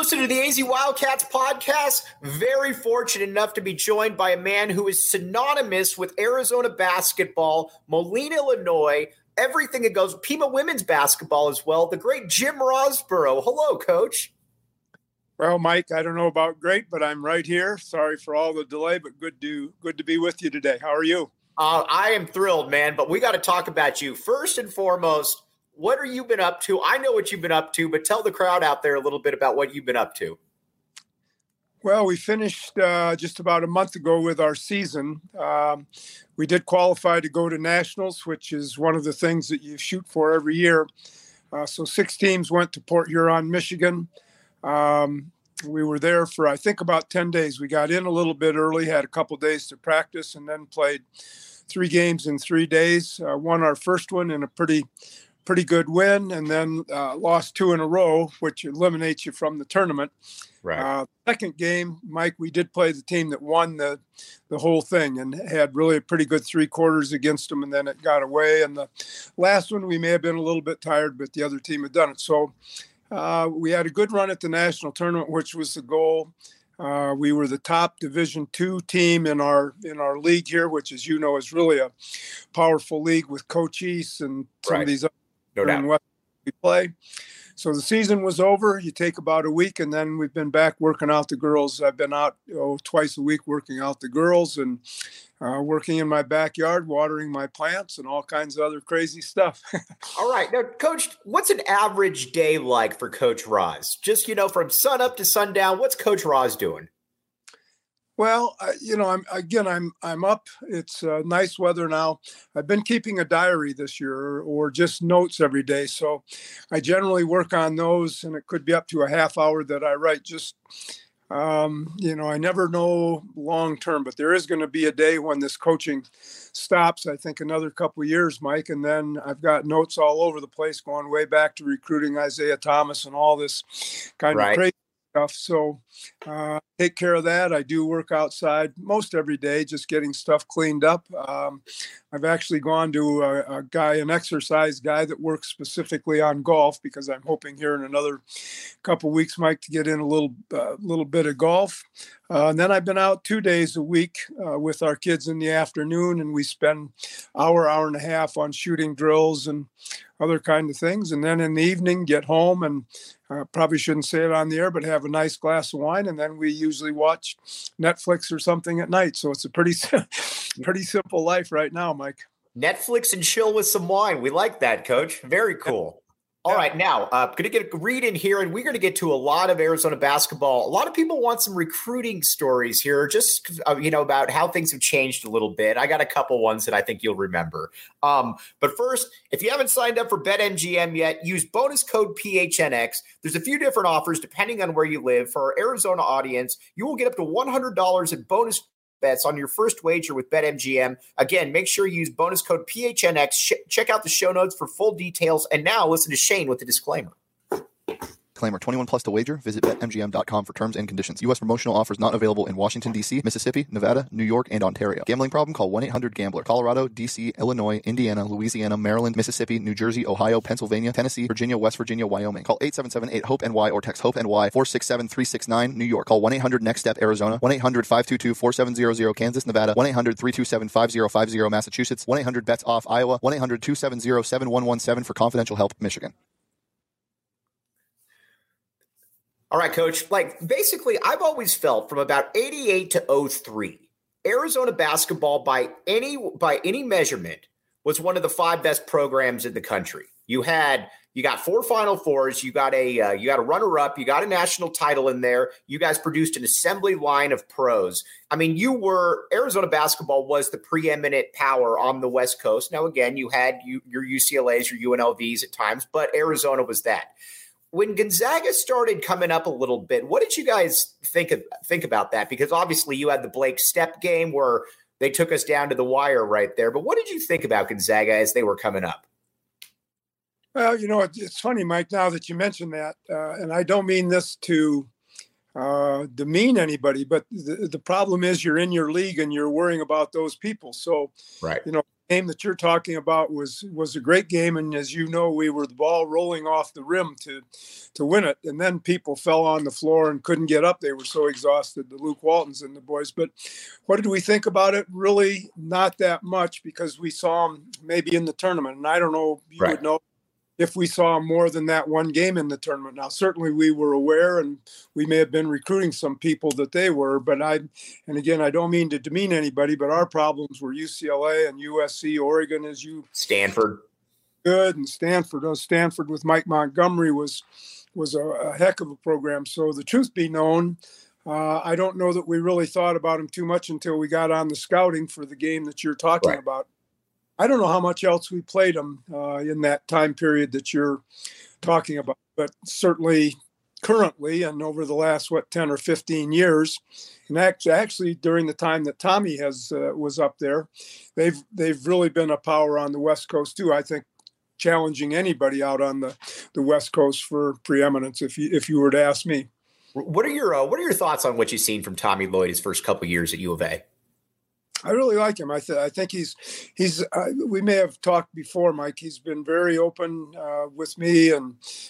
listening to the AZ Wildcats podcast. Very fortunate enough to be joined by a man who is synonymous with Arizona basketball, Moline, Illinois, everything that goes, Pima women's basketball as well, the great Jim Rosborough. Hello, Coach. Well, Mike, I don't know about great, but I'm right here. Sorry for all the delay, but good to be with you today. How are you? I am thrilled, man, but we got to talk about you. First and foremost, what have you been up to? I know what you've been up to, but tell the crowd out there a little bit about what you've been up to. Well, we finished just about a month ago with our season. We did qualify to go to nationals, which is one of the things that you shoot for every year. So 6 teams went to Port Huron, Michigan. We were there for, I think, about 10 days. We got in a little bit early, had a couple days to practice, and then played 3 games in 3 days. Won our first one in a pretty good win, and then lost 2 in a row, which eliminates you from the tournament. Right. Second game, Mike, we did play the team that won the whole thing and had really a pretty good 3 quarters against them, and then it got away. And the last one, we may have been a little bit tired, but the other team had done it. So we had a good run at the national tournament, which was the goal. We were the top Division II team in our league here, which, as you know, is really a powerful league with Cochise and some of these other in West we play. So the season was over. You take about a week, and then we've been back working out the girls. I've been out twice a week working out the girls and working in my backyard, watering my plants, and all kinds of other crazy stuff. All right. Now, Coach, what's an average day like for Coach Roz? Just, from sun up to sundown, what's Coach Roz doing? Well, I'm up. It's nice weather now. I've been keeping a diary this year or just notes every day. So I generally work on those, and it could be up to a half hour that I write. Just, I never know long term, but there is going to be a day when this coaching stops. I think another couple of years, Mike. And then I've got notes all over the place going way back to recruiting Isaiah Thomas and all this kind of crazy stuff. So take care of that. I do work outside most every day, just getting stuff cleaned up. I've actually gone to an exercise guy that works specifically on golf, because I'm hoping here in another couple of weeks, Mike, to get in a little bit of golf. And then I've been out 2 days a week with our kids in the afternoon, and we spend hour and a half on shooting drills and other kind of things. And then in the evening, get home and probably shouldn't say it on the air, but have a nice glass of wine. And then we usually watch Netflix or something at night. So it's a pretty simple life right now, Mike. Netflix and chill with some wine. We like that, Coach. Very cool. All right, now, going to get a read in here, and we're going to get to a lot of Arizona basketball. A lot of people want some recruiting stories here, just, about how things have changed a little bit. I got a couple ones that I think you'll remember. But first, if you haven't signed up for BetMGM yet, use bonus code PHNX. There's a few different offers depending on where you live. For our Arizona audience, you will get up to $100 in bonus bets on your first wager with BetMGM. Again, make sure you use bonus code PHNX. Check out the show notes for full details. And now listen to Shane with the disclaimer. Disclaimer, 21 plus to wager. Visit BetMGM.com for terms and conditions. U.S. promotional offers not available in Washington, D.C., Mississippi, Nevada, New York, and Ontario. Gambling problem? Call 1-800-GAMBLER. Colorado, D.C., Illinois, Indiana, Louisiana, Maryland, Mississippi, New Jersey, Ohio, Pennsylvania, Tennessee, Virginia, West Virginia, Wyoming. Call 877-8-HOPE-NY or text HOPE-NY 467-369, New York. Call 1-800-NEXT-STEP, Arizona. 1-800-522-4700, Kansas, Nevada. 1-800-327-5050, Massachusetts. 1-800-BETS-OFF, Iowa. 1-800-270-7117 for confidential help, Michigan. All right, Coach. Basically, I've always felt from about 88 to 03, Arizona basketball by any measurement was one of the 5 best programs in the country. You got 4 Final Fours, you got a runner-up, you got a national title in there. You guys produced an assembly line of pros. I mean, Arizona basketball was the preeminent power on the West Coast. Now, again, you had your UCLAs, your UNLVs at times, but Arizona was that. When Gonzaga started coming up a little bit, what did you guys think about that? Because obviously you had the Blake Stepp game where they took us down to the wire right there. But what did you think about Gonzaga as they were coming up? Well, it's funny, Mike, now that you mention that, and I don't mean this to demean anybody, but the problem is you're in your league and you're worrying about those people. So, right. game that you're talking about was a great game, and as you know, we were the ball rolling off the rim to win it, and then people fell on the floor and couldn't get up. They were so exhausted, the Luke Waltons and the boys. But what did we think about it? Really, not that much, because we saw them maybe in the tournament, and I don't know. You would know if we saw more than that one game in the tournament. Now, certainly we were aware, and we may have been recruiting some people that they were, but and again, I don't mean to demean anybody, but our problems were UCLA and USC, Oregon, Stanford. Good, and Stanford. Stanford with Mike Montgomery was a heck of a program. So the truth be known, I don't know that we really thought about him too much until we got on the scouting for the game that you're talking about. I don't know how much else we played them in that time period that you're talking about, but certainly currently and over the last, 10 or 15 years, and actually during the time that Tommy was up there, they've really been a power on the West Coast too. I think challenging anybody out on the West Coast for preeminence, if you were to ask me. What are your thoughts on what you've seen from Tommy Lloyd his first couple of years at U of A? I really like him. I think he's we may have talked before, Mike. He's been very open with me and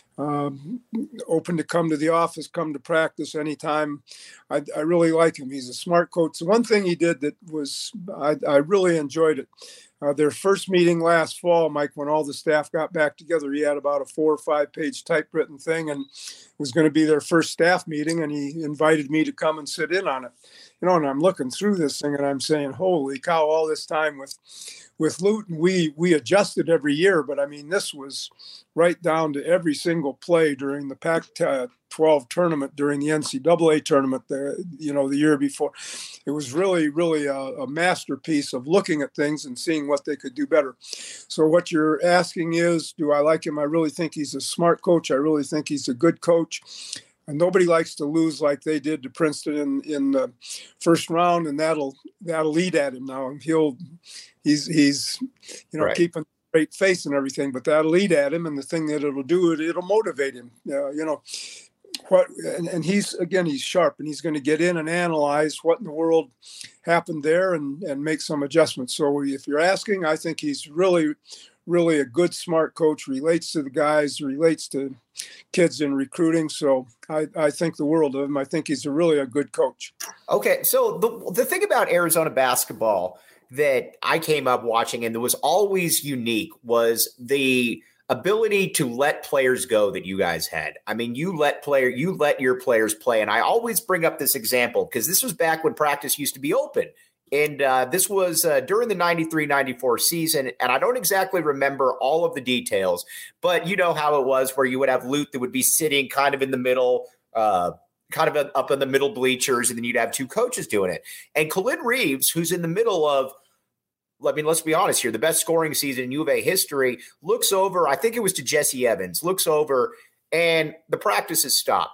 open to come to the office, come to practice anytime. I really like him. He's a smart coach. The one thing he did that was I really enjoyed it. Their first meeting last fall, Mike, when all the staff got back together, he had about a 4 or 5 page typewritten thing, and it was going to be their first staff meeting, and he invited me to come and sit in on it. And I'm looking through this thing and I'm saying, holy cow, all this time with Luton, we adjusted every year, but I mean, this was right down to every single play during the Pac-12 tournament, during the NCAA tournament, the year before. It was really, really a masterpiece of looking at things and seeing what they could do better. So what you're asking is, do I like him? I really think he's a smart coach. I really think he's a good coach. And nobody likes to lose like they did to Princeton in the first round, and that'll eat at him now. He's keeping a straight face and everything, but that'll eat at him. And the thing that it'll do, it'll motivate him. And he's sharp, and he's going to get in and analyze what in the world happened there and make some adjustments. So if you're asking, I think he's really, really a good, smart coach, relates to the guys, relates to kids in recruiting. So I think the world of him. I think he's really a good coach. Okay. So the thing about Arizona basketball that I came up watching and that was always unique was the ability to let players go that you guys had. I mean, you let your players play. And I always bring up this example because this was back when practice used to be open. And this was during the 93-94 season, and I don't exactly remember all of the details, but you know how it was where you would have Lute that would be sitting kind of in the middle, kind of up in the middle bleachers, and then you'd have two coaches doing it. And Khalid Reeves, who's in the middle of, let's be honest here, the best scoring season in U of A history, looks over, I think it was to Jesse Evans, looks over, and the practice is stopped.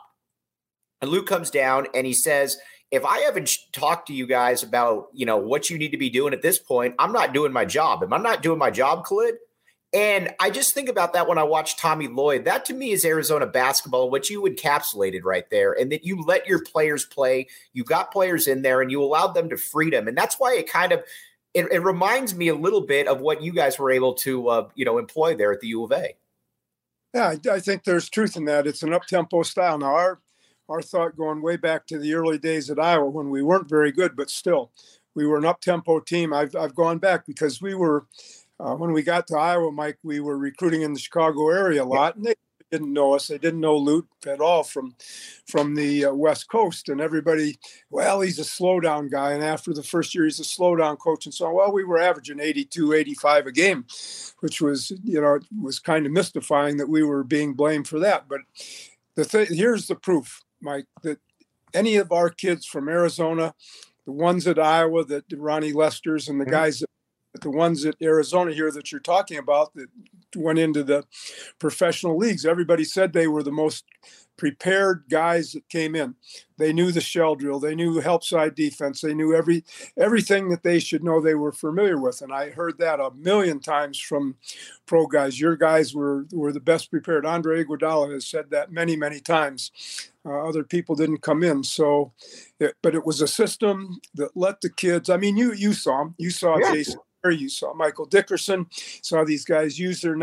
And Luke comes down, and he says, if I haven't talked to you guys about, what you need to be doing at this point, I'm not doing my job. Am I not doing my job, Khalid? And I just think about that when I watch Tommy Lloyd. That to me is Arizona basketball, what you encapsulated right there, and that you let your players play. You got players in there, and you allowed them to freedom. And that's why it kind of it reminds me a little bit of what you guys were able to employ there at the U of A. Yeah, I think there's truth in that. It's an up-tempo style. Now, our thought going way back to the early days at Iowa when we weren't very good, but still we were an up-tempo team. I've gone back because we were, when we got to Iowa, Mike, we were recruiting in the Chicago area a lot, and they didn't know us. They didn't know Lute at all from the West Coast, and everybody, well, he's a slow-down guy. And after the first year, he's a slow-down coach. And so, we were averaging 82, 85 a game, which was, it was kind of mystifying that we were being blamed for that. But here's the proof, Mike, that any of our kids from Arizona, the ones at Iowa, that Ronnie Lester's and the guys, the ones at Arizona here that you're talking about that went into the professional leagues, everybody said they were the most prepared guys that came in. They knew the shell drill. They knew help side defense. They knew everything that they should know they were familiar with. And I heard that a million times from pro guys. Your guys were the best prepared. Andre Iguodala has said that many, many times. Other people didn't come in. But it was a system that let the kids, I mean, you saw them. You saw Jason You saw Michael Dickerson, saw these guys use their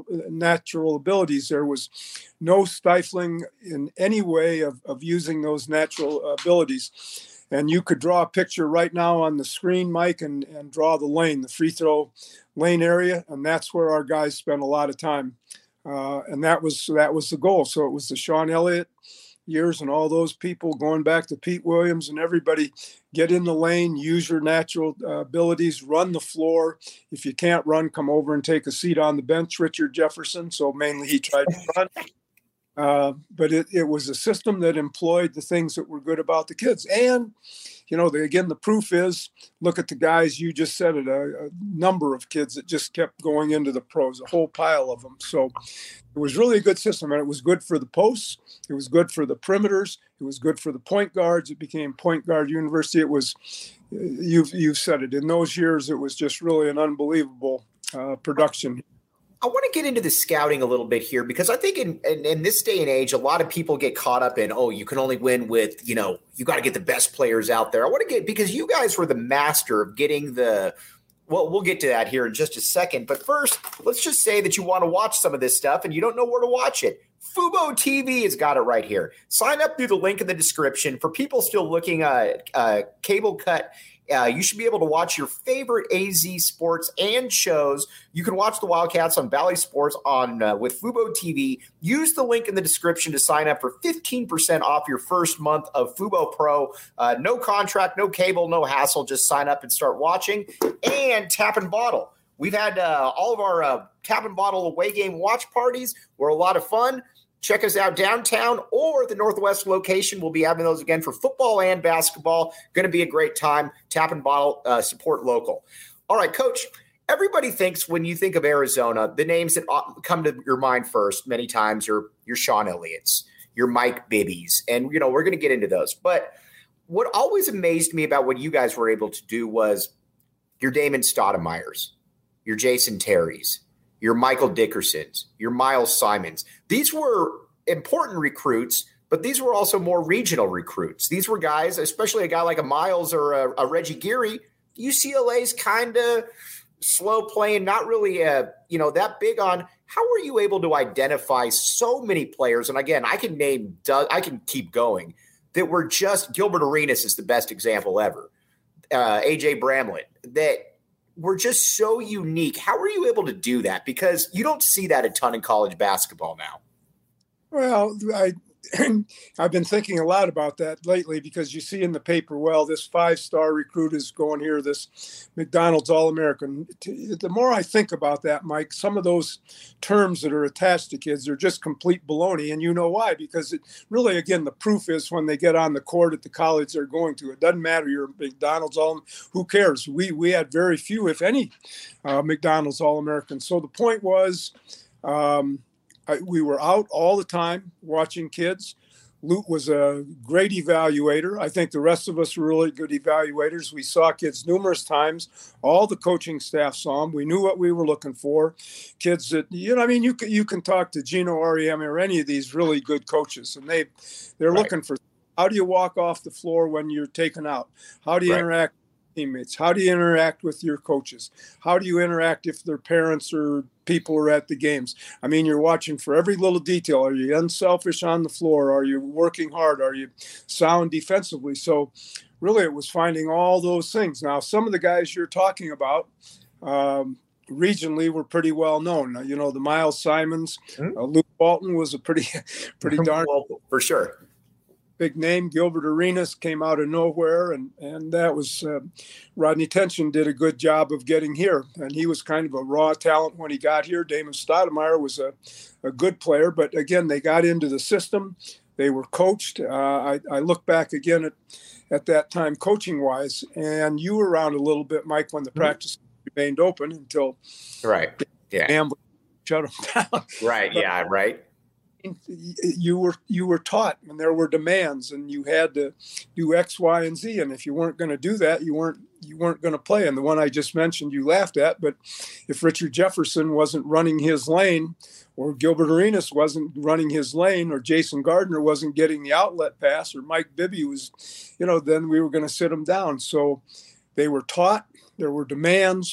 natural abilities. There was no stifling in any way of using those natural abilities. And you could draw a picture right now on the screen, Mike, and draw the lane, the free throw lane area. And that's where our guys spent a lot of time. And that was the goal. So it was the Sean Elliott years and all those people going back to Pete Williams and everybody, get in the lane, use your natural abilities, run the floor. If you can't run, come over and take a seat on the bench, Richard Jefferson. So mainly he tried to run. But it was a system that employed the things that were good about the kids. And, again, the proof is, look at the guys, you just said it, a number of kids that just kept going into the pros, a whole pile of them. So it was really a good system, and it was good for the posts. It was good for the perimeters. It was good for the point guards. It became Point Guard University. It was, you've said it, in those years, it was just really an unbelievable production. I want to get into the scouting a little bit here, because I think in this day and age, a lot of people get caught up in, you can only win with, you got to get the best players out there. I want to because you guys were the master of getting we'll get to that here in just a second. But first, let's just say that you want to watch some of this stuff and you don't know where to watch it. Fubo TV has got it right here. Sign up through the link in the description. For people still looking at cable cut, you should be able to watch your favorite AZ sports and shows. You can watch the Wildcats on Bally Sports with Fubo TV. Use the link in the description to sign up for 15% off your first month of Fubo Pro. No contract, no cable, no hassle. Just sign up and start watching. And Tap and Bottle. We've had all of our Tap and Bottle away game watch parties were a lot of fun. Check us out downtown or the Northwest location. We'll be having those again for football and basketball. Going to be a great time. Tap and Bottle, support local. All right, Coach, everybody thinks when you think of Arizona, the names that come to your mind first many times are your Sean Elliott's, your Mike Bibby's, and, we're going to get into those. But what always amazed me about what you guys were able to do was your Damon Stoudemire's, your Jason Terry's, your Michael Dickersons, your Miles Simons. These were important recruits, but these were also more regional recruits. These were guys, especially a guy like a Miles or a Reggie Geary, UCLA's kind of slow playing, not really that big on. How were you able to identify so many players? And again, I can keep going, that were just, Gilbert Arenas is the best example ever. AJ Bramlett, that were just so unique. How were you able to do that? Because you don't see that a ton in college basketball now. Well, I've been thinking a lot about that lately, because you see in the paper, this 5-star recruit is going here, this McDonald's All-American. The more I think about that, Mike, some of those terms that are attached to kids are just complete baloney. And you know why? Because it really, again, the proof is when they get on the court at the college they're going to. It doesn't matter, you're a McDonald's who cares? We had very few, if any, McDonald's All-Americans. So the point was, we were out all the time watching kids. Lute was a great evaluator. I think the rest of us were really good evaluators. We saw kids numerous times. All the coaching staff saw them. We knew what we were looking for. Kids that, you can talk to Gino Auriemma or any of these really good coaches, and they're right. Looking for, how do you walk off the floor when you're taken out? How do you interact with teammates? How do you interact with your coaches? How do you interact if their parents or people are at the games? You're watching for every little detail. Are you unselfish on the floor? Are you working hard? Are you sound defensively? So really it was finding all those things. Now, some of the guys you're talking about regionally were pretty well known. The Miles Simons, Luke Walton was a pretty darn for sure big name. Gilbert Arenas came out of nowhere, and that was Rodney Tension did a good job of getting here, and he was kind of a raw talent when he got here. Damon Stoudemire was a good player, but again, they got into the system. They were coached. I look back again at that time coaching wise, and you were around a little bit, Mike, when the practice remained open until shut them down. Right. But, yeah. Right. You were taught, and there were demands, and you had to do X, Y, and Z. And if you weren't going to do that, you weren't going to play. And the one I just mentioned, you laughed at. But if Richard Jefferson wasn't running his lane, or Gilbert Arenas wasn't running his lane, or Jason Gardner wasn't getting the outlet pass, or Mike Bibby was, then we were going to sit him down. So they were taught. There were demands.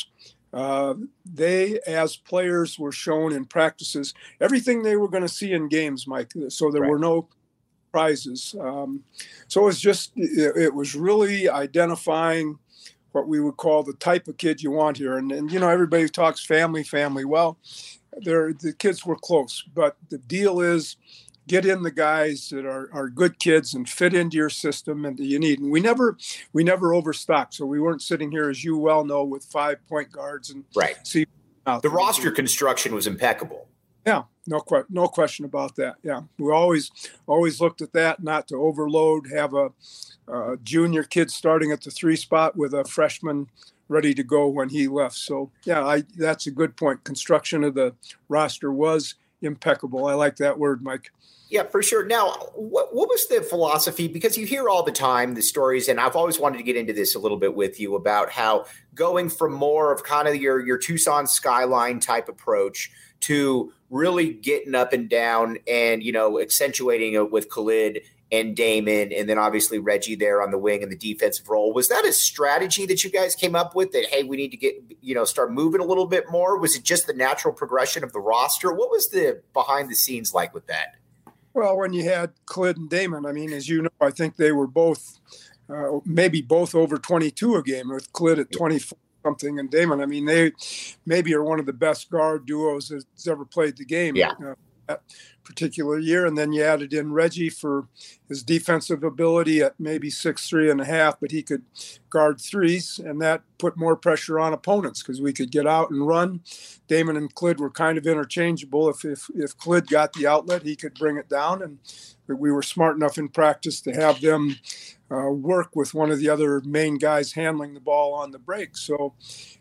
They, as players, were shown in practices everything they were going to see in games, Mike. So there were no prizes. So it was really identifying what we would call the type of kid you want here. And everybody talks family. Well, the kids were close, but the deal is get in the guys that are good kids and fit into your system and that you need. And we never overstocked. So we weren't sitting here, as you well know, with 5 point guards and see. The roster construction was impeccable. Yeah, no question about that. Yeah, we always looked at that, not to overload, have a junior kid starting at the 3 spot with a freshman ready to go when he left. So yeah, that's a good point. Construction of the roster was impeccable. I like that word, Mike. Yeah, for sure. Now, what was the philosophy? Because you hear all the time the stories, and I've always wanted to get into this a little bit with you about how going from more of kind of your Tucson skyline type approach to really getting up and down and, accentuating it with Khalid and Damon, and then obviously Reggie there on the wing in the defensive role. Was that a strategy that you guys came up with that, hey, we need to get, start moving a little bit more? Was it just the natural progression of the roster? What was the behind the scenes like with that? Well, when you had Khalid and Damon, I mean, as you know, I think they were both, maybe both over 22 a game, with Khalid at 24 something and Damon. I mean, they maybe are one of the best guard duos that's ever played the game. Yeah. That particular year. And then you added in Reggie for his defensive ability at maybe 6'3.5", but he could guard threes, and that put more pressure on opponents because we could get out and run. Damon and Khalid were kind of interchangeable. If Khalid got the outlet, he could bring it down, and we were smart enough in practice to have them work with one of the other main guys handling the ball on the break. So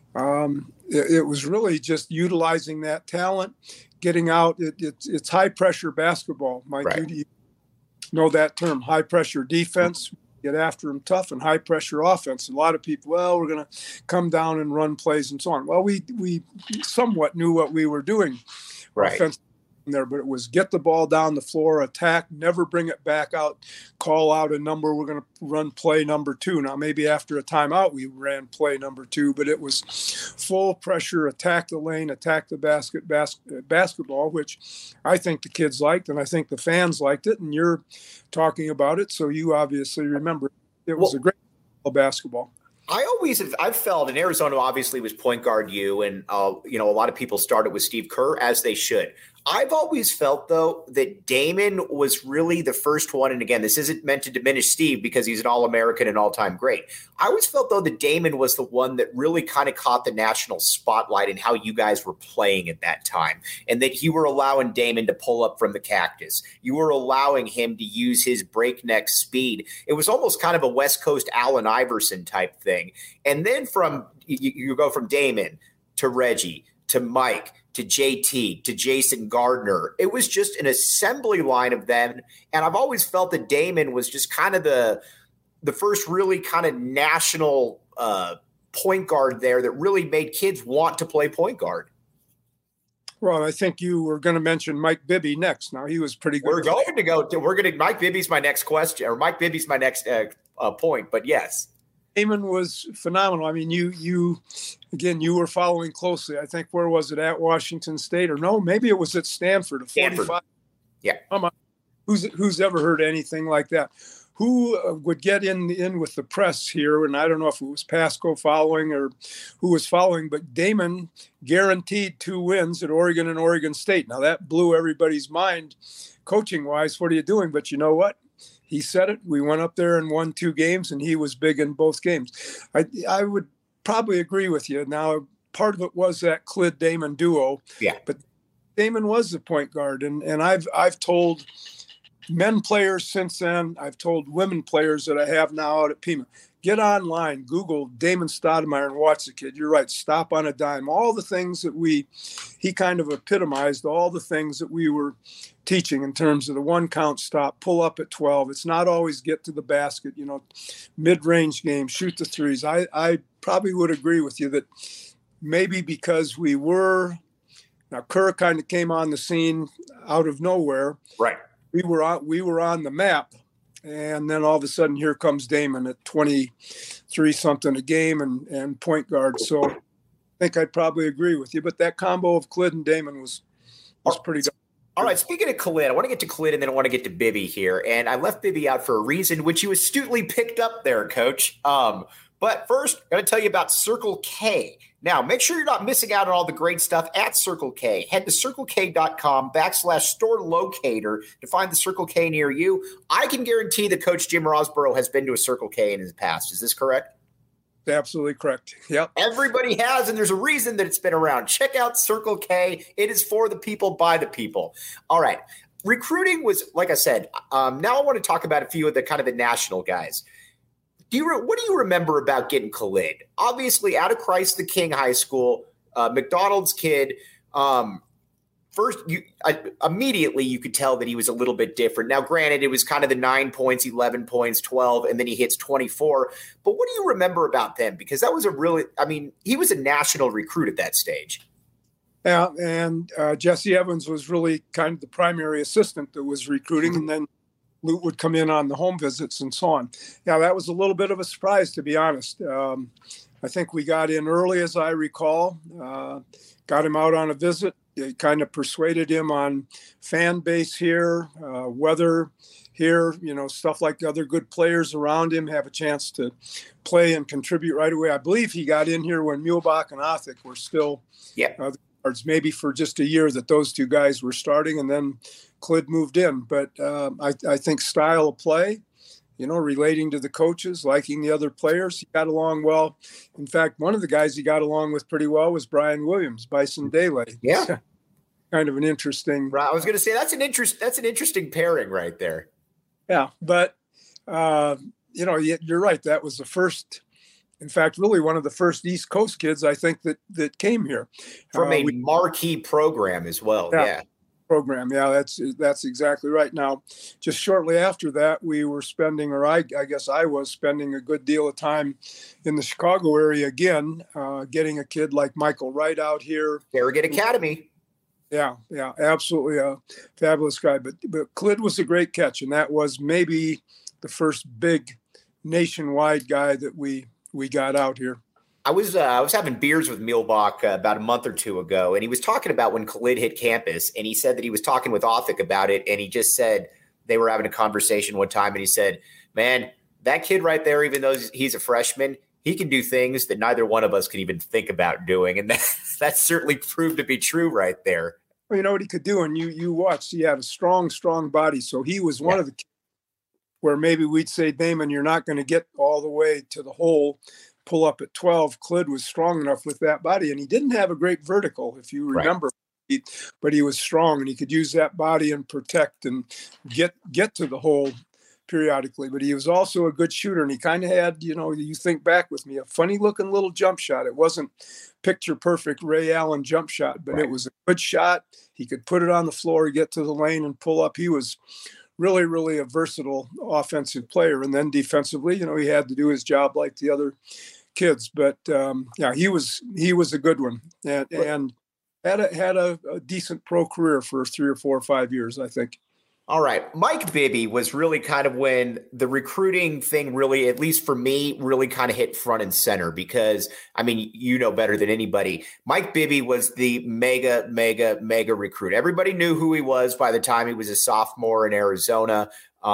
it was really just utilizing that talent, getting out. It's high pressure basketball. Mike, right. You know that term, high pressure defense, get after them tough, and high pressure offense. A lot of people, we're going to come down and run plays and so on. Well, we somewhat knew what we were doing. Right. There, but it was get the ball down the floor, attack, never bring it back out, call out a number. We're going to run play number 2. Now, maybe after a timeout, we ran play number 2, but it was full pressure, attack the lane, attack the basketball, which I think the kids liked, and I think the fans liked it. And you're talking about it, so you obviously remember it was a great basketball. I've felt, and Arizona obviously was point guard you, and a lot of people started with Steve Kerr, as they should. I've always felt, though, that Damon was really the first one. And again, this isn't meant to diminish Steve because he's an All-American and all-time great. I always felt, though, that Damon was the one that really kind of caught the national spotlight in how you guys were playing at that time, and that you were allowing Damon to pull up from the cactus. You were allowing him to use his breakneck speed. It was almost kind of a West Coast Allen Iverson type thing. And then you go from Damon to Reggie to Mike to JT, to Jason Gardner. It was just an assembly line of them. And I've always felt that Damon was just kind of the first really kind of national point guard there that really made kids want to play point guard. Well, I think you were going to mention Mike Bibby next. Now, he was pretty good. Mike Bibby's my next question, or Mike Bibby's my next point, but yes. Damon was phenomenal. I mean, you were following closely. I think, where was it, at Washington State, or no, maybe it was at Stanford. 45. Yeah. Who's ever heard anything like that? Who would get in with the press here? And I don't know if it was Pasco following or who was following, but Damon guaranteed 2 wins at Oregon and Oregon State. Now, that blew everybody's mind coaching wise. What are you doing? But you know what? He said it. We went up there and won 2 games, and he was big in both games. I would probably agree with you. Now, part of it was that Khalid-Damon duo. Yeah. But Damon was the point guard, and I've told men players since then. I've told women players that I have now out at Pima, get online, Google Damon Stoudemire and watch the kid. You're right. Stop on a dime. All the things that he kind of epitomized, all the things that we were teaching in terms of the 1 count stop, pull up at 12. It's not always get to the basket, mid-range game, shoot the threes. I probably would agree with you that maybe because now Kerr kind of came on the scene out of nowhere. Right. We were on the map. And then all of a sudden, here comes Damon at 23 something a game and point guard. So think I'd probably agree with you, but that combo of Khalid and Damon was pretty good. All right, speaking of Khalid, I want to get to Khalid and then I want to get to Bibby here. And I left Bibby out for a reason, which you astutely picked up there, Coach. But first, I'm going to tell you about Circle K. Now, make sure you're not missing out on all the great stuff at Circle K. Head to circlek.com/store locator to find the Circle K near you. I can guarantee that Coach Jim Rosborough has been to a Circle K in his past. Is this correct? Absolutely correct. Yep. Everybody has, and there's a reason that it's been around. Check out Circle K. It is for the people, by the people. All right. Recruiting was, like I said, now I want to talk about a few of the kind of the national guys. What do you remember about getting Khalid? Obviously, out of Christ the King High School, McDonald's kid. First, immediately you could tell that he was a little bit different. Now, granted, it was kind of the 9 points, 11 points, 12, and then he hits 24. But what do you remember about them? Because that was he was a national recruit at that stage. Yeah, and Jesse Evans was really kind of the primary assistant that was recruiting, and then Lute would come in on the home visits and so on. Yeah, that was a little bit of a surprise, to be honest. I think we got in early, as I recall, got him out on a visit. They kind of persuaded him on fan base here, weather here, stuff like the other good players around him have a chance to play and contribute right away. I believe he got in here when Muhlbach and Othick were still maybe for just a year that those two guys were starting, and then Khalid moved in. But I think style of play, relating to the coaches, liking the other players, he got along well. In fact, one of the guys he got along with pretty well was Brian Williams, Bison Dele. Yeah. Kind of an interesting. Right. I was going to say that's an interesting pairing right there. Yeah, but you're right. That was the first. In fact, really one of the first East Coast kids I think that came here from a marquee program as well. Yeah. Program. Yeah, that's exactly right. Now, just shortly after that, we were spending, or I guess I was spending a good deal of time in the Chicago area again, getting a kid like Michael Wright out here. Farragut Academy. Yeah, absolutely a fabulous guy. But Khalid was a great catch, and that was maybe the first big nationwide guy that we got out here. I was having beers with Muhlbach about a month or two ago, and he was talking about when Khalid hit campus, and he said that he was talking with Othick about it, and he just said they were having a conversation one time, and he said, man, that kid right there, even though he's a freshman, he can do things that neither one of us could even think about doing, and that certainly proved to be true right there. Well, you know what he could do, and you watched, he had a strong body, so he was one of the kids where maybe we'd say, Damon, you're not going to get all the way to the hole, pull up at 12. Khalid was strong enough with that body, and he didn't have a great vertical, if you remember, but he was strong, and he could use that body and protect and get to the hole periodically. But he was also a good shooter, and he kind of had, you think back with me, a funny looking little jump shot. It wasn't picture perfect Ray Allen jump shot, but it was a good shot. He could put it on the floor, get to the lane and pull up. He was really, really a versatile offensive player. And then defensively, he had to do his job like the other kids. But he was a good one, and had a decent pro career for 3 or 4 or 5 years, I think. All right. Mike Bibby was really kind of when the recruiting thing really, at least for me, really kind of hit front and center because, better than anybody. Mike Bibby was the mega recruit. Everybody knew who he was by the time he was a sophomore in Arizona.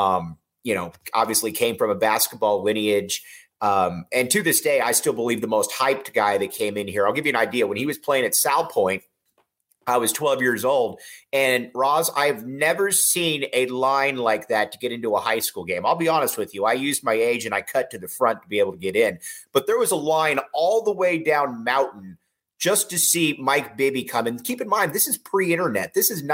Obviously came from a basketball lineage. And to this day, I still believe the most hyped guy that came in here. I'll give you an idea. When he was playing at Sal Point, I was 12 years old. And Roz, I've never seen a line like that to get into a high school game. I'll be honest with you. I used my age and I cut to the front to be able to get in. But there was a line all the way down Mountain just to see Mike Bibby come. And keep in mind, this is pre-internet. This is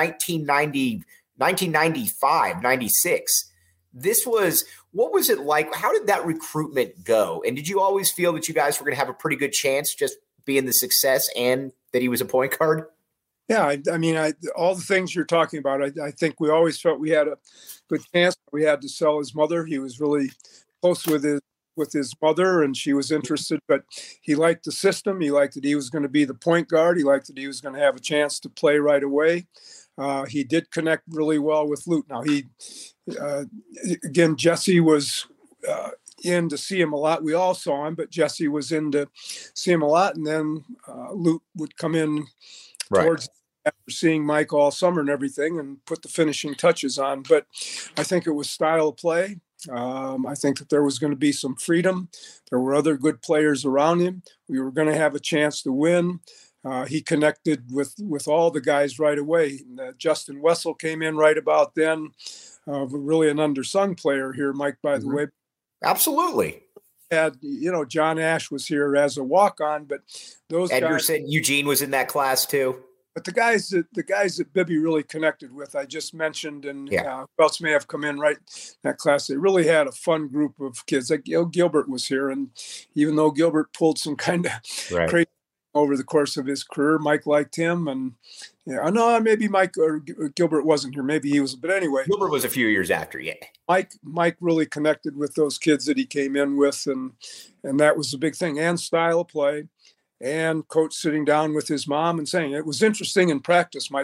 1995, 96. What was it like? How did that recruitment go? And did you always feel that you guys were going to have a pretty good chance just being the success and that he was a point guard? Yeah, all the things you're talking about, I think we always felt we had a good chance. We had to sell his mother. He was really close with his mother, and she was interested. But he liked the system. He liked that he was going to be the point guard. He liked that he was going to have a chance to play right away. He did connect really well with Lute. Now, again, Jesse was in to see him a lot. We all saw him, but Jesse was in to see him a lot. And then Lute would come in towards after seeing Mike all summer and everything and put the finishing touches on. But I think it was style of play. I think that there was going to be some freedom. There were other good players around him. We were going to have a chance to win. He connected with all the guys right away. And, Justin Wessel came in right about then. Really an undersung player here, Mike, by the way. Absolutely. Had, John Ash was here as a walk-on, but those Edgar guys, said Eugene was in that class too. But the guys that Bibby really connected with, I just mentioned, and who else may have come in right in that class, they really had a fun group of kids. Like Gilbert was here, and even though Gilbert pulled some kind of crazy over the course of his career, Mike liked him, and maybe Mike or Gilbert wasn't here. Maybe he was, but anyway, Gilbert was a few years after. Yeah, Mike really connected with those kids that he came in with, and that was the big thing. And style of play. And coach sitting down with his mom and saying, it was interesting in practice, Mike.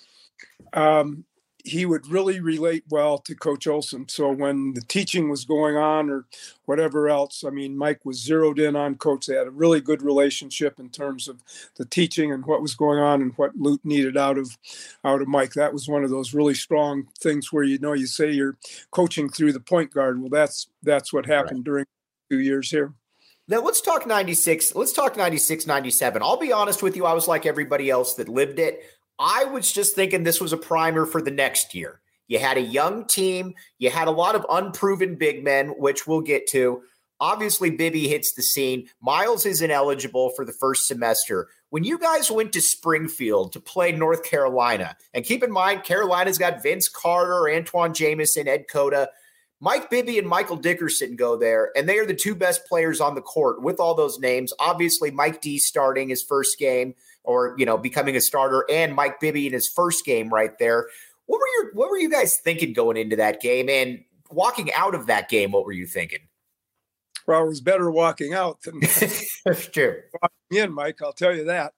He would really relate well to Coach Olson. So when the teaching was going on or whatever else, Mike was zeroed in on Coach. They had a really good relationship in terms of the teaching and what was going on and what Lute needed out of Mike. That was one of those really strong things where, you say you're coaching through the point guard. Well, that's what happened during 2 years here. Now let's talk 96. Let's talk 96, 97. I'll be honest with you. I was like everybody else that lived it. I was just thinking this was a primer for the next year. You had a young team. You had a lot of unproven big men, which we'll get to. Obviously, Bibby hits the scene. Miles is ineligible for the first semester. When you guys went to Springfield to play North Carolina, and keep in mind, Carolina's got Vince Carter, Antoine Jamison, Ed Cota. Mike Bibby and Michael Dickerson go there, and they are the two best players on the court with all those names. Obviously, Mike D starting his first game or, becoming a starter, and Mike Bibby in his first game right there. What were you guys thinking going into that game? And walking out of that game, what were you thinking? Well, it was better walking out than true. Walking in, Mike. I'll tell you that.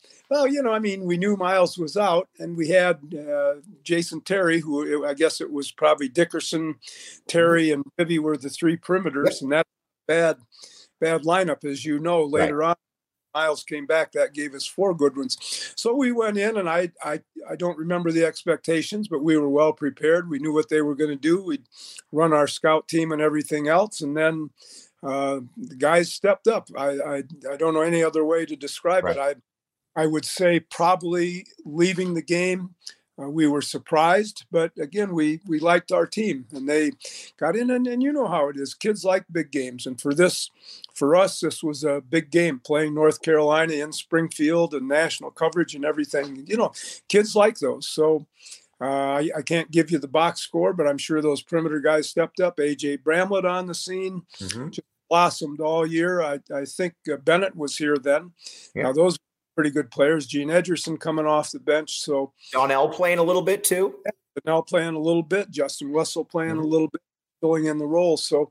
We knew Miles was out, and we had Jason Terry, who I guess it was probably Dickerson, Terry, and Bibby were the three perimeters, and that's a bad lineup, as you know. Later on, Miles came back. That gave us four good ones. So we went in, and I don't remember the expectations, but we were well prepared. We knew what they were going to do. We'd run our scout team and everything else, and then the guys stepped up. I don't know any other way to describe it. I would say probably leaving the game, we were surprised, but again, we liked our team, and they got in, and you know how it is. Kids like big games, and for us, this was a big game, playing North Carolina in Springfield and national coverage and everything. Kids like those. So I can't give you the box score, but I'm sure those perimeter guys stepped up. A.J. Bramlett on the scene, just blossomed all year. I think Bennett was here then. Now those pretty good players. Gene Edgerson coming off the bench. So Donnell playing a little bit too. Donnell playing a little bit. Justin Wessel playing a little bit, filling in the role. So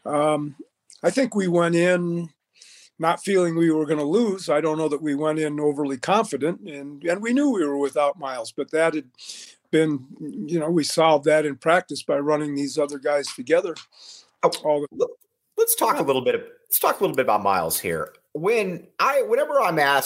I think we went in not feeling we were going to lose. I don't know that we went in overly confident, and we knew we were without Miles, but that had been, we solved that in practice by running these other guys together. Let's talk a little bit about Miles here. Whenever I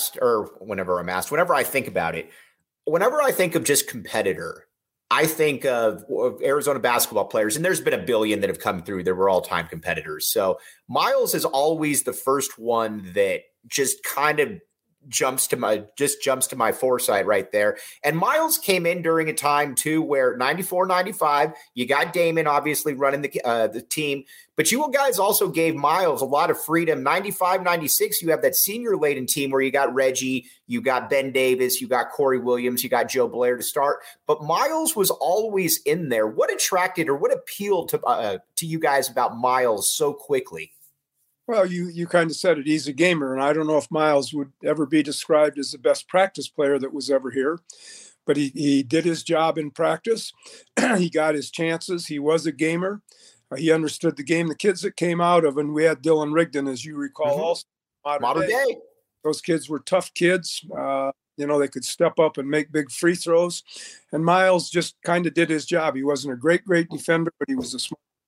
think about it, whenever I think of just competitor, I think of Arizona basketball players, and there's been a billion that have come through that were all-time competitors. So Miles is always the first one that just kind of jumps to my foresight right there. And Miles came in during a time too where 94, 95, you got Damon obviously running the team, but you guys also gave Miles a lot of freedom. 95, 96, you have that senior laden team where you got Reggie, you got Ben Davis, you got Corey Williams, you got Joe Blair to start, but Miles was always in there. What attracted or what appealed to you guys about Miles so quickly? Well, you kind of said it. He's a gamer, and I don't know if Miles would ever be described as the best practice player that was ever here, but he did his job in practice. He got his chances. He was a gamer. He understood the game. The kids that came out of, and we had Dylan Rigdon, as you recall, also modern day. Those kids were tough kids. They could step up and make big free throws, and Miles just kind of did his job. He wasn't a great defender, but he was a smart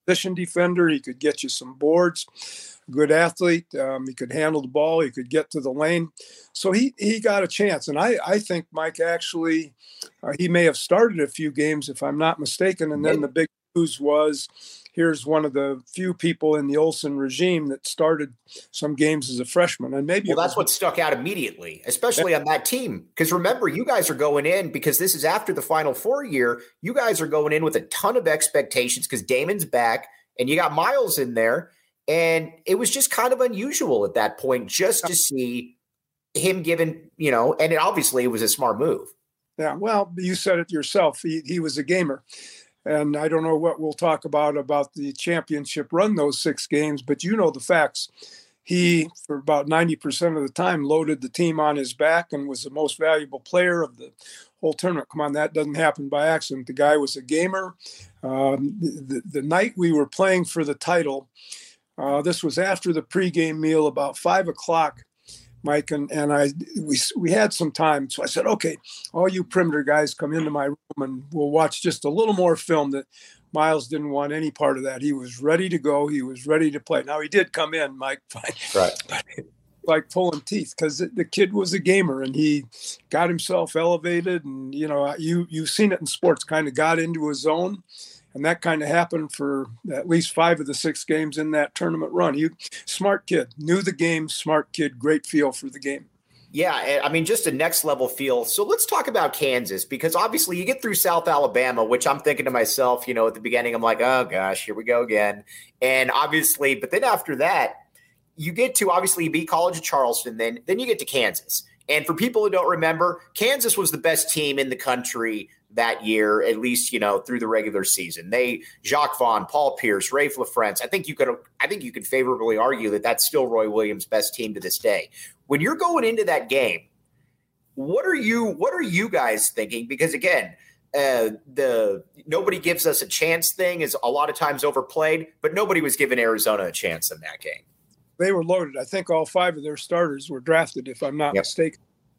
position defender. He could get you some boards. Good athlete. He could handle the ball. He could get to the lane. So he got a chance. And I think Mike actually, he may have started a few games if I'm not mistaken. And then the big news was, here's one of the few people in the Olsen regime that started some games as a freshman. And maybe that's what stuck out immediately, especially on that team. Because remember, you guys are going in, because this is after the Final Four year, you guys are going in with a ton of expectations because Damon's back and you got Miles in there. And it was just kind of unusual at that point just to see him given, and obviously it was a smart move. Yeah, well, you said it yourself. He was a gamer. And I don't know what we'll talk about the championship run, those 6 games, but you know the facts. He, for about 90% of the time, loaded the team on his back and was the most valuable player of the whole tournament. Come on, that doesn't happen by accident. The guy was a gamer. The night we were playing for the title, this was after the pregame meal, about 5 o'clock, Mike, and we had some time. So I said, okay, all you perimeter guys come into my room and we'll watch just a little more film. That Miles didn't want any part of that. He was ready to go. He was ready to play. Now he did come in, Mike, right. like pulling teeth, because the kid was a gamer and he got himself elevated. And, you've seen it in sports, kind of got into his zone. And that kind of happened for at least 5 of the 6 games in that tournament run. Smart kid, knew the game, smart kid, great feel for the game. Yeah, I mean, just a next level feel. So let's talk about Kansas, because obviously you get through South Alabama, which I'm thinking to myself, at the beginning, I'm like, oh gosh, here we go again. And obviously, but then after that, you get to obviously beat College of Charleston, then you get to Kansas. And for people who don't remember, Kansas was the best team in the country that year, at least, through the regular season. Jacques Vaughn, Paul Pierce, Rafe LaFrentz. I think you could favorably argue that that's still Roy Williams' best team to this day. When you're going into that game, what are you guys thinking? Because again, the nobody gives us a chance thing is a lot of times overplayed, but nobody was giving Arizona a chance in that game. They were loaded. I think all 5 of their starters were drafted, if I'm not mistaken.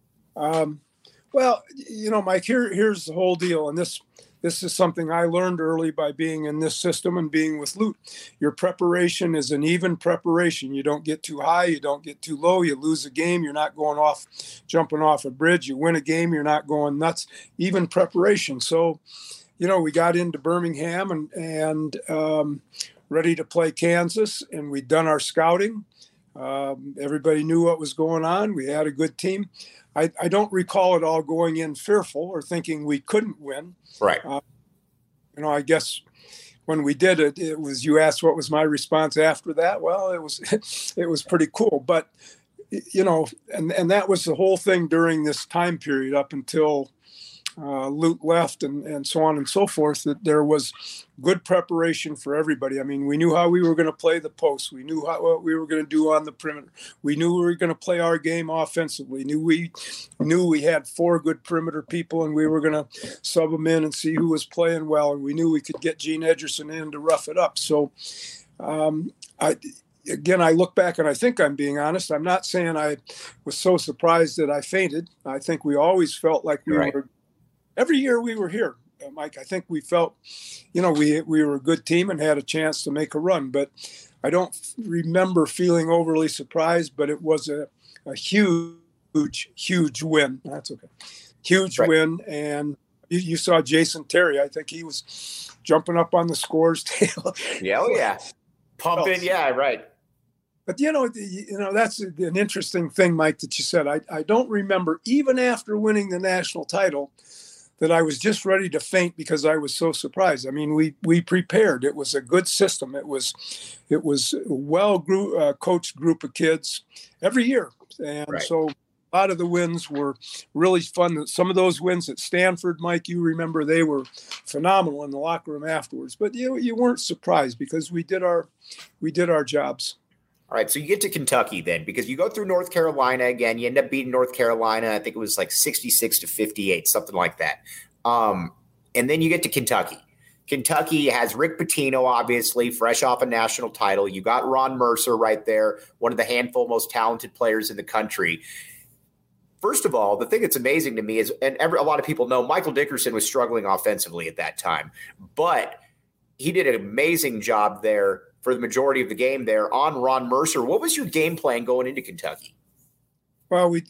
Well, Mike, here's the whole deal. And this is something I learned early by being in this system and being with Lute. Your preparation is an even preparation. You don't get too high. You don't get too low. You lose a game, you're not jumping off a bridge. You win a game, you're not going nuts. Even preparation. So, we got into Birmingham and ready to play Kansas, and we'd done our scouting. Everybody knew what was going on. We had a good team. I don't recall it all going in fearful or thinking we couldn't win. Right. I guess when we did it, it was, you asked what was my response after that. Well, it was pretty cool. But, and that was the whole thing during this time period up until Lute left and so on and so forth, that there was good preparation for everybody. I mean, we knew how we were going to play the post. We knew what we were going to do on the perimeter. We knew we were going to play our game offensively. We knew we had 4 good perimeter people, and we were going to sub them in and see who was playing well. And we knew we could get Gene Edgerson in to rough it up. So, I look back and I think I'm being honest. I'm not saying I was so surprised that I fainted. I think we always felt like we were. Every year we were here, Mike, I think we felt, we were a good team and had a chance to make a run. But I don't remember feeling overly surprised, but it was a huge win. That's okay. Huge win. And you saw Jason Terry. I think he was jumping up on the scores table. Yeah. Pumping. Yeah, right. But, that's an interesting thing, Mike, that you said. I don't remember, even after winning the national title, that I was just ready to faint because I was so surprised. I mean, we prepared. It was a good system. It was a well coached group of kids every year. And so a lot of the wins were really fun. Some of those wins at Stanford, Mike, you remember, they were phenomenal in the locker room afterwards. But you weren't surprised because we did our jobs. All right, so you get to Kentucky then, because you go through North Carolina again. You end up beating North Carolina. I think it was like 66-58, something like that. And then you get to Kentucky. Kentucky has Rick Pitino, obviously, fresh off a national title. You got Ron Mercer right there, one of the handful most talented players in the country. First of all, the thing that's amazing to me is, and a lot of people know, Michael Dickerson was struggling offensively at that time. But he did an amazing job there for the majority of the game there on Ron Mercer. What was your game plan going into Kentucky? Well, we,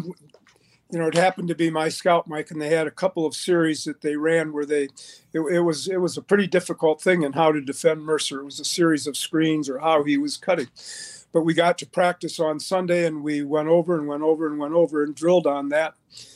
it happened to be my scout, Mike, and they had a couple of series that they ran where it was a pretty difficult thing in how to defend Mercer. It was a series of screens or how he was cutting. But we got to practice on Sunday, and we went over and drilled on that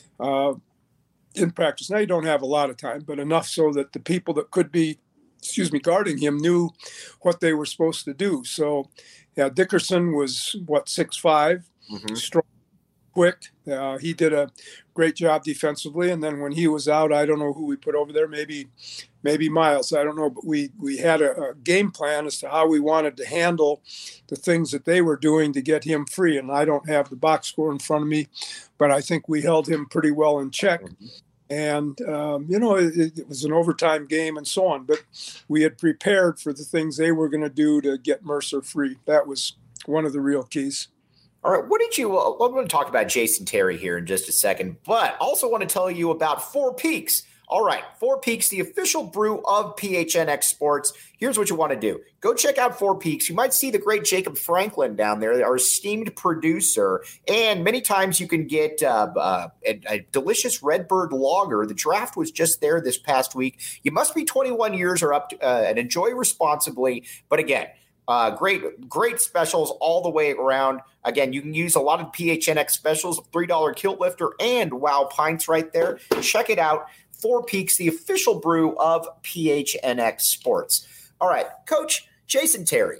in practice. Now you don't have a lot of time, but enough so that the people that could be, guarding him knew what they were supposed to do. So, yeah, Dickerson was 6'5", strong, quick. He did a great job defensively. And then when he was out, I don't know who we put over there. Maybe Miles. I don't know. But we had a game plan as to how we wanted to handle the things that they were doing to get him free. And I don't have the box score in front of me, but I think we held him pretty well in check. And, it was an overtime game and so on. But we had prepared for the things they were going to do to get Mercer free. That was one of the real keys. All right, I'm going to talk about Jason Terry here in just a second, but also want to tell you about Four Peaks. All right, Four Peaks, the official brew of PHNX Sports. Here's what you want to do. Go check out Four Peaks. You might see the great Jacob Franklin down there, our esteemed producer, and many times you can get a delicious Redbird lager. The draft was just there this past week. You must be 21 years or up and enjoy responsibly, but again, great specials all the way around. Again, you can use a lot of PHNX specials, $3 kilt lifter and Wow Pints right there. Check it out. Four Peaks, the official brew of PHNX Sports. All right, Coach Jason Terry.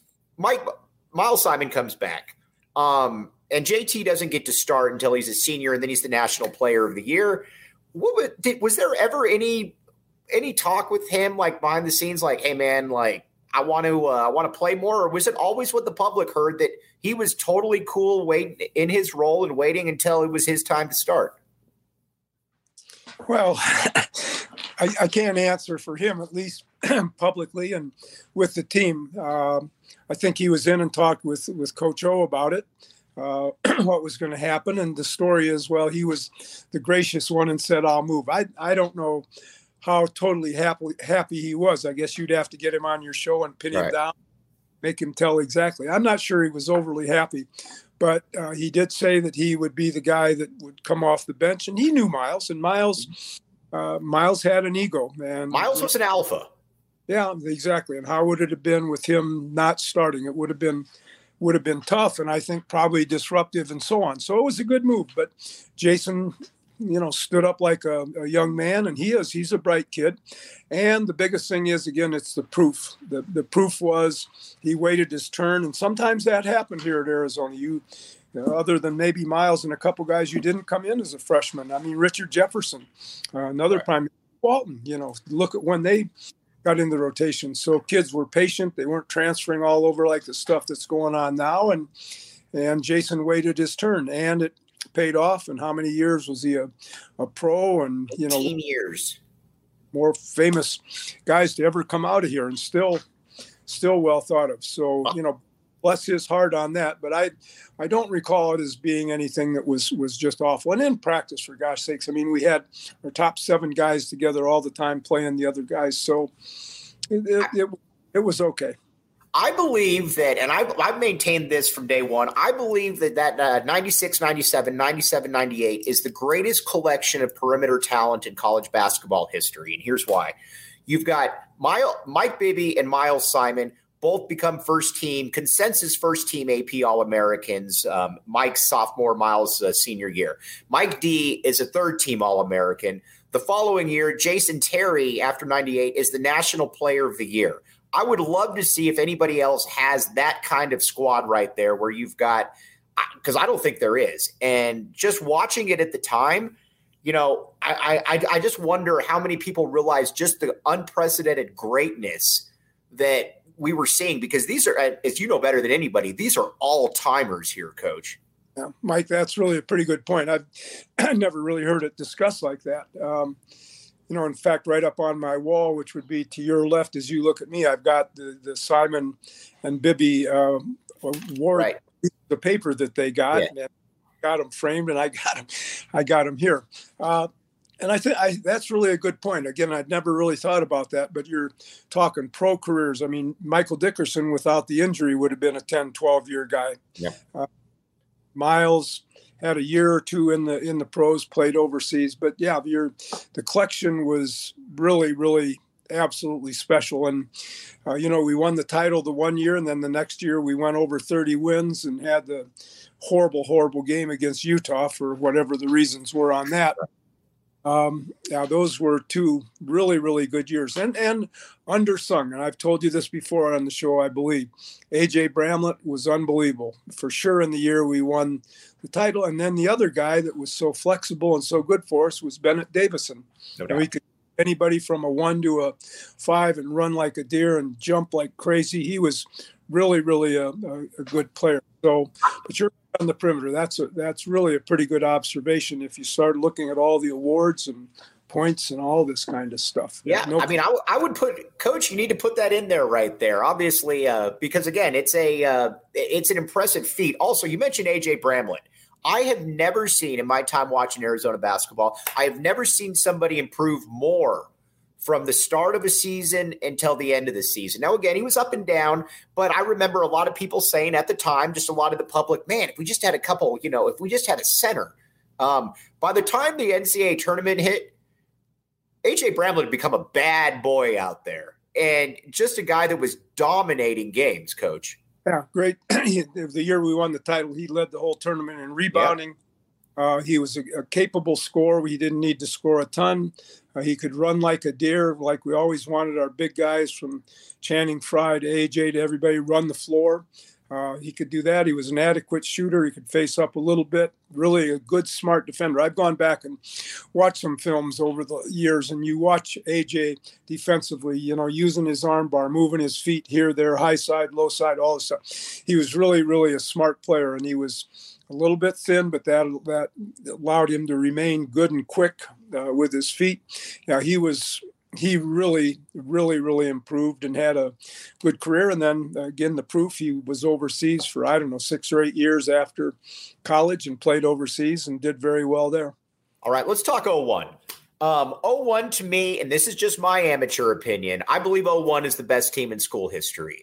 Miles Simon comes back. And JT doesn't get to start until he's a senior, and then he's the National Player of the Year. Was there ever any talk with him, like behind the scenes, like, hey man, like, I want to play more, or was it always what the public heard that he was totally cool waiting in his role and waiting until it was his time to start? Well, I can't answer for him, at least publicly and with the team. I think he was in and talked with Coach O about it, what was going to happen. And the story is, well, he was the gracious one and said, I'll move. I don't know how totally happy he was. I guess you'd have to get him on your show and pin him down, make him tell exactly. I'm not sure he was overly happy, but he did say that he would be the guy that would come off the bench, and he knew Miles, and Miles had an ego, and Miles was an alpha. Yeah, exactly. And how would it have been with him not starting? It would have been tough, and I think probably disruptive and so on. So it was a good move, but Jason, stood up like a young man, and he's a bright kid. And the biggest thing is, again, it's the proof. The proof was he waited his turn, and sometimes that happened here at Arizona. Other than maybe Miles and a couple guys, you didn't come in as a freshman. I mean, Richard Jefferson, another prime, Walton, look at when they got in the rotation. So kids were patient. They weren't transferring all over like the stuff that's going on now. And Jason waited his turn, and it paid off. And how many years was he a pro? And 18 years. More famous guys to ever come out of here, and still well thought of. So bless his heart on that. But I don't recall it as being anything that was just awful. And in practice, for gosh sakes, I mean, we had our top 7 guys together all the time playing the other guys. So it was okay. I believe that, and I've maintained this from day one, I believe that 96, 97, 97, 98 is the greatest collection of perimeter talent in college basketball history. And here's why. You've got Mike Bibby and Miles Simon both become consensus first team AP All-Americans. Mike's sophomore, Miles' senior year. Mike D is a third team All-American. The following year, Jason Terry, after 98, is the National Player of the Year. I would love to see if anybody else has that kind of squad right there where you've got – because I don't think there is. And just watching it at the time, I just wonder how many people realize just the unprecedented greatness that we were seeing, because these are, as you know better than anybody, these are all-timers here, Coach. Yeah, Mike, that's really a pretty good point. I've never really heard it discussed like that. In fact, right up on my wall, which would be to your left as you look at me, I've got the Simon and Bibby award, right. The paper that they got, and got them framed, and I got them here. And I think that's really a good point. Again, I'd never really thought about that, but you're talking pro careers. I mean, Michael Dickerson, without the injury, would have been a 10, 12-year guy. Yeah. Miles had a year or two in the pros, played overseas. But yeah, the collection was really, really absolutely special. And, we won the title the one year, and then the next year we went over 30 wins and had the horrible, horrible game against Utah for whatever the reasons were on that. Those were two really, really good years and undersung. And I've told you this before on the show, I believe. A.J. Bramlett was unbelievable for sure in the year we won the title. And then the other guy that was so flexible and so good for us was Bennett Davison. No doubt. We could anybody from a 1 to a 5 and run like a deer and jump like crazy. He was really, really a good player. So, but you're on the perimeter. That's really a pretty good observation if you start looking at all the awards and points and all this kind of stuff. Yeah, I would put, Coach, you need to put that in there right there, obviously, because again, it's an impressive feat. Also, you mentioned A.J. Bramlett. I have never seen, in my time watching Arizona basketball, I have never seen somebody improve more from the start of a season until the end of the season. Now, again, he was up and down, but I remember a lot of people saying at the time, just a lot of the public, man, if we just had a couple, if we just had a center. By the time the NCAA tournament hit, A.J. Bramlett had become a bad boy out there and just a guy that was dominating games, Coach. Yeah, great. The year we won the title, he led the whole tournament in rebounding. Yeah. He was a capable scorer. He didn't need to score a ton. He could run like a deer, like we always wanted our big guys from Channing Frye to AJ to everybody run the floor. He could do that. He was an adequate shooter. He could face up a little bit. Really a good, smart defender. I've gone back and watched some films over the years, and you watch AJ defensively, using his arm bar, moving his feet here, there, high side, low side, all this stuff. He was really, really a smart player, and he was a little bit thin, but that allowed him to remain good and quick with his feet. Yeah, he really, really, really improved and had a good career. And then again, the proof, he was overseas for, 6 or 8 years after college and played overseas and did very well there. All right, let's talk 01. 01 to me, and this is just my amateur opinion, I believe 01 is the best team in school history.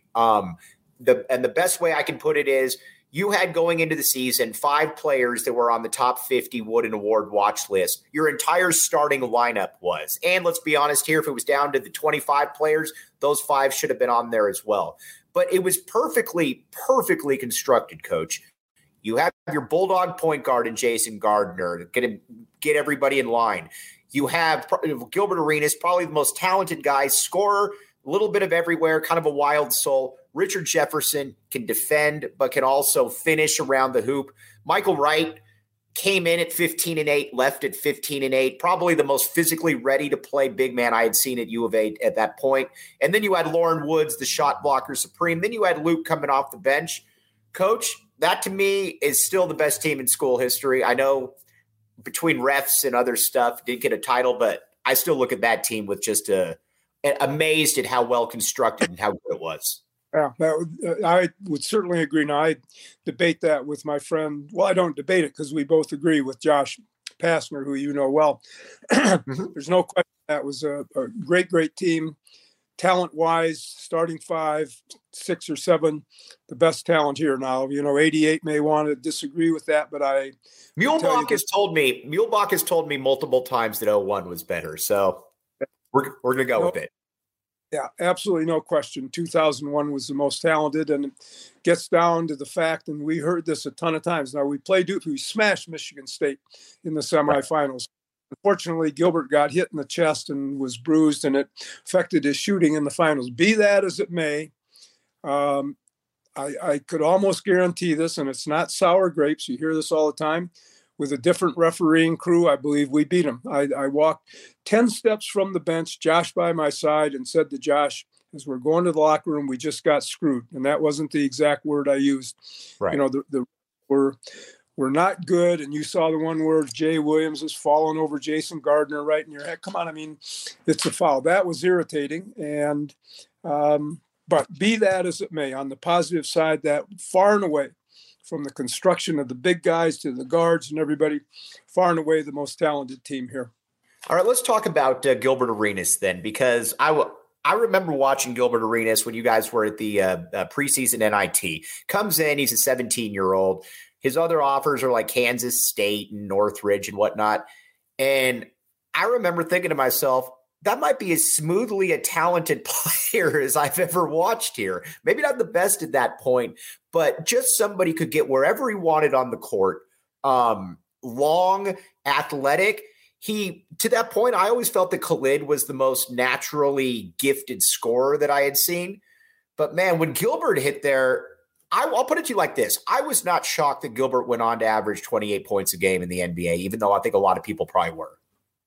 The best way I can put it is, you had going into the season 5 players that were on the top 50 Wooden Award watch list. Your entire starting lineup was. And let's be honest here, if it was down to the 25 players, those 5 should have been on there as well. But it was perfectly constructed, Coach. You have your Bulldog point guard in Jason Gardner, get everybody in line. You have Gilbert Arenas, probably the most talented guy, scorer, a little bit of everywhere, kind of a wild soul. Richard Jefferson can defend, but can also finish around the hoop. Michael Wright came in at 15-8, left at 15-8, probably the most physically ready to play big man I had seen at U of A at that point. And then you had Lauren Woods, the shot blocker supreme. Then you had Luke coming off the bench. Coach, that to me is still the best team in school history. I know between refs and other stuff, didn't get a title, but I still look at that team with just amazed at how well constructed and how good it was. Yeah, I would certainly agree. Now, I debate that with my friend. Well, I don't debate it because we both agree with Josh Pastner, who you know well. There's no question that was a great, great team. Talent-wise, starting 5, 6 or 7, the best talent here now. 88 may want to disagree with that, but Muehlbach has told me multiple times that 01 was better. So we're going to go with it. Yeah, absolutely no question. 2001 was the most talented, and it gets down to the fact, and we heard this a ton of times. Now, we smashed Michigan State in the semifinals. Unfortunately, Gilbert got hit in the chest and was bruised, and it affected his shooting in the finals. Be that as it may, I could almost guarantee this, and it's not sour grapes. You hear this all the time. With a different refereeing crew, I believe we beat them. I walked 10 steps from the bench, Josh by my side, and said to Josh, as we're going to the locker room, we just got screwed. And that wasn't the exact word I used. Right. We're not good. And you saw the one word, Jay Williams is falling over Jason Gardner right in your head. Come on, it's a foul. That was irritating. And but be that as it may, on the positive side, that far and away, from the construction of the big guys to the guards and everybody, far and away the most talented team here. All right, let's talk about Gilbert Arenas then, because I remember watching Gilbert Arenas when you guys were at the preseason NIT. Comes in, he's a 17-year-old. His other offers are like Kansas State and Northridge and whatnot. And I remember thinking to myself, that might be as smoothly a talented player as I've ever watched here. Maybe not the best at that point, but just somebody could get wherever he wanted on the court. Long, athletic. To that point, I always felt that Khalid was the most naturally gifted scorer that I had seen. But man, when Gilbert hit there, I'll put it to you like this. I was not shocked that Gilbert went on to average 28 points a game in the NBA, even though I think a lot of people probably were.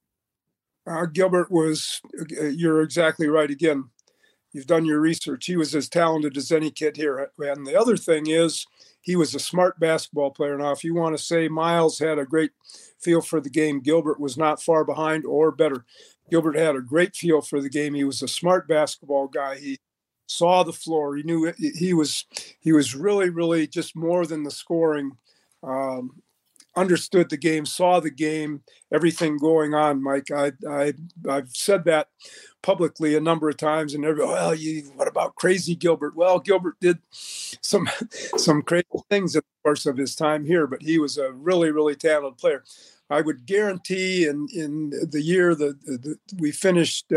Gilbert was, you're exactly right. Again, you've done your research. He was as talented as any kid here. And the other thing is, he was a smart basketball player. Now, if you want to say Miles had a great feel for the game, Gilbert was not far behind or better. Gilbert had a great feel for the game. He was a smart basketball guy. He saw the floor. He knew he was really, really just more than the scoring. Understood the game, saw the game, everything going on, Mike. I've said that publicly a number of times, and what about crazy Gilbert? Well, Gilbert did some crazy things in the course of his time here, but he was a really, really talented player. I would guarantee in the year that we finished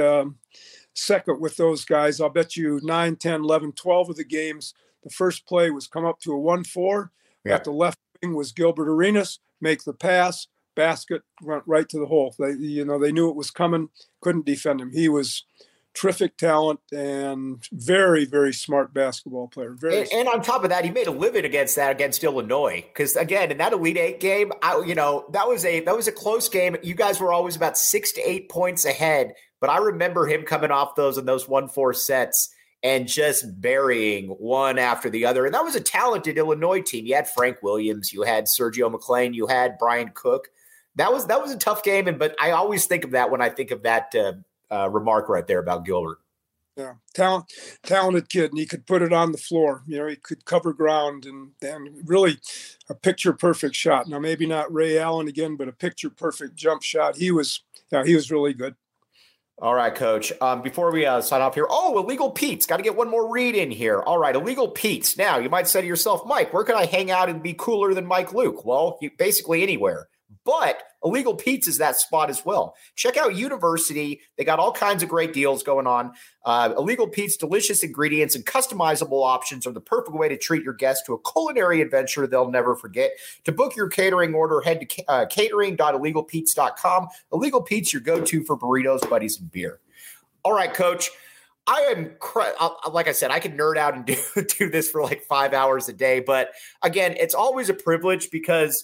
second with those guys, I'll bet you 9, 10, 11, 12 of the games, the first play was come up to a 1-4. Yeah. At the left wing was Gilbert Arenas, make the pass, basket, went right to the hole. They knew it was coming, couldn't defend him. He was terrific talent and very, very smart basketball player. And on top of that, he made a living against Illinois. Because again, in that Elite Eight game, that was a close game. You guys were always about 6 to 8 points ahead. But I remember him coming off those 1-4 sets and just burying one after the other. And that was a talented Illinois team. You had Frank Williams, you had Sergio McClain, you had Brian Cook. That was a tough game. But I always think of that when I think of that remark right there about Gilbert. Yeah, talented kid, and he could put it on the floor. He could cover ground and really a picture-perfect shot. Now, maybe not Ray Allen again, but a picture-perfect jump shot. He was really good. All right, Coach. Before we sign off here, Illegal Pete's got to get one more read in here. All right, Illegal Pete's. Now, you might say to yourself, Mike, where can I hang out and be cooler than Mike Luke? Well, basically anywhere. But Illegal Pete's is that spot as well. Check out University. They got all kinds of great deals going on. Illegal Pete's delicious ingredients and customizable options are the perfect way to treat your guests to a culinary adventure they'll never forget. To book your catering order, head to catering.illegalpete's.com. Illegal Pete's, your go-to for burritos, buddies, and beer. All right, Coach. I am, like I said, I could nerd out and do this for like 5 hours a day. But again, it's always a privilege because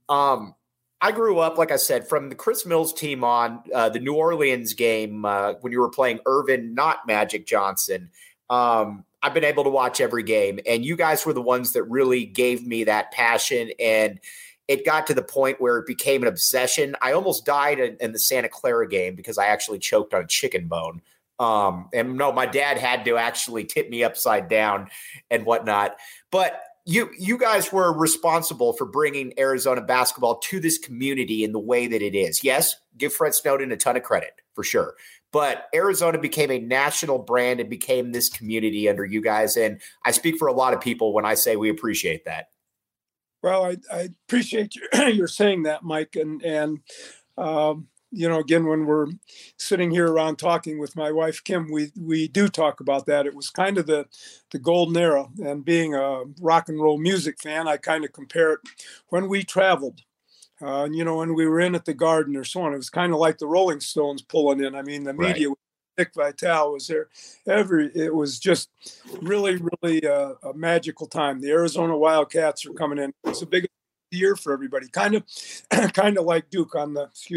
I grew up, like I said, from the Chris Mills team on the New Orleans game when you were playing Irvin, not Magic Johnson. I've been able to watch every game, and you guys were the ones that really gave me that passion, and it got to the point where it became an obsession. I almost died in the Santa Clara game because I actually choked on a chicken bone. And no, my dad had to actually tip me upside down and whatnot. But you guys were responsible for bringing Arizona basketball to this community in the way that it is. Yes, give Fred Snowden a ton of credit for sure. But Arizona became a national brand and became this community under you guys. And I speak for a lot of people when I say we appreciate that. Well, I appreciate your saying that, Mike. And again, when we're sitting here around talking with my wife, Kim, we do talk about that. It was kind of the golden era. And being a rock and roll music fan, I kind of compare it when we traveled. When we were in at the Garden or so on, it was kind of like the Rolling Stones pulling in. I mean, the media, right. Dick Vitale was there. It was just really, really a magical time. The Arizona Wildcats are coming in. It was a big year for everybody, kind of like Duke on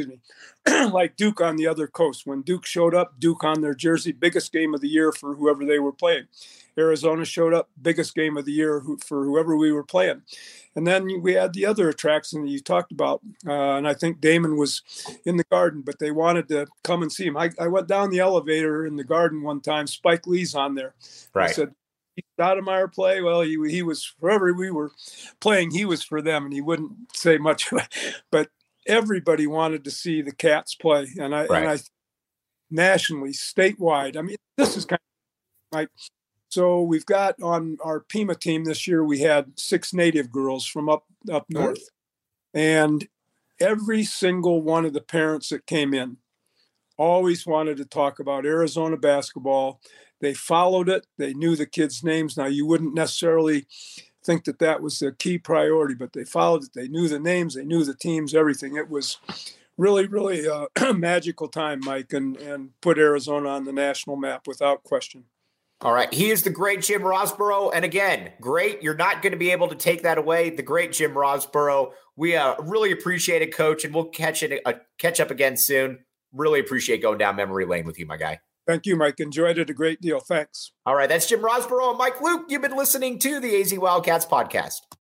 the other coast. When Duke showed up, Duke on their jersey, biggest game of the year for whoever they were playing. Arizona showed up, biggest game of the year for whoever we were playing. And then we had the other attraction that you talked about, and I think Damon was in the Garden, but they wanted to come and see him. I went down the elevator in the Garden one time. Spike Lee's on there. Right. I said, Stoudemire play? Well, he was, wherever we were playing, he was for them, and he wouldn't say much. But everybody wanted to see the Cats play, and I nationally, statewide. I mean, this is kind of like, so we've got on our Pima team this year, we had 6 native girls from up north, and every single one of the parents that came in always wanted to talk about Arizona basketball. They followed it. They knew the kids' names. Now, you wouldn't necessarily think that that was the key priority, but they followed it. They knew the names. They knew the teams, everything. It was really, really a magical time, Mike, and put Arizona on the national map without question. All right. He is the great Jim Rosborough. And again, great. You're not going to be able to take that away. The great Jim Rosborough. We really appreciate it, Coach, and we'll catch up again soon. Really appreciate going down memory lane with you, my guy. Thank you, Mike. Enjoyed it a great deal. Thanks. All right. That's Jim Rosborough and Mike Luke. You've been listening to the AZ Wildcats podcast.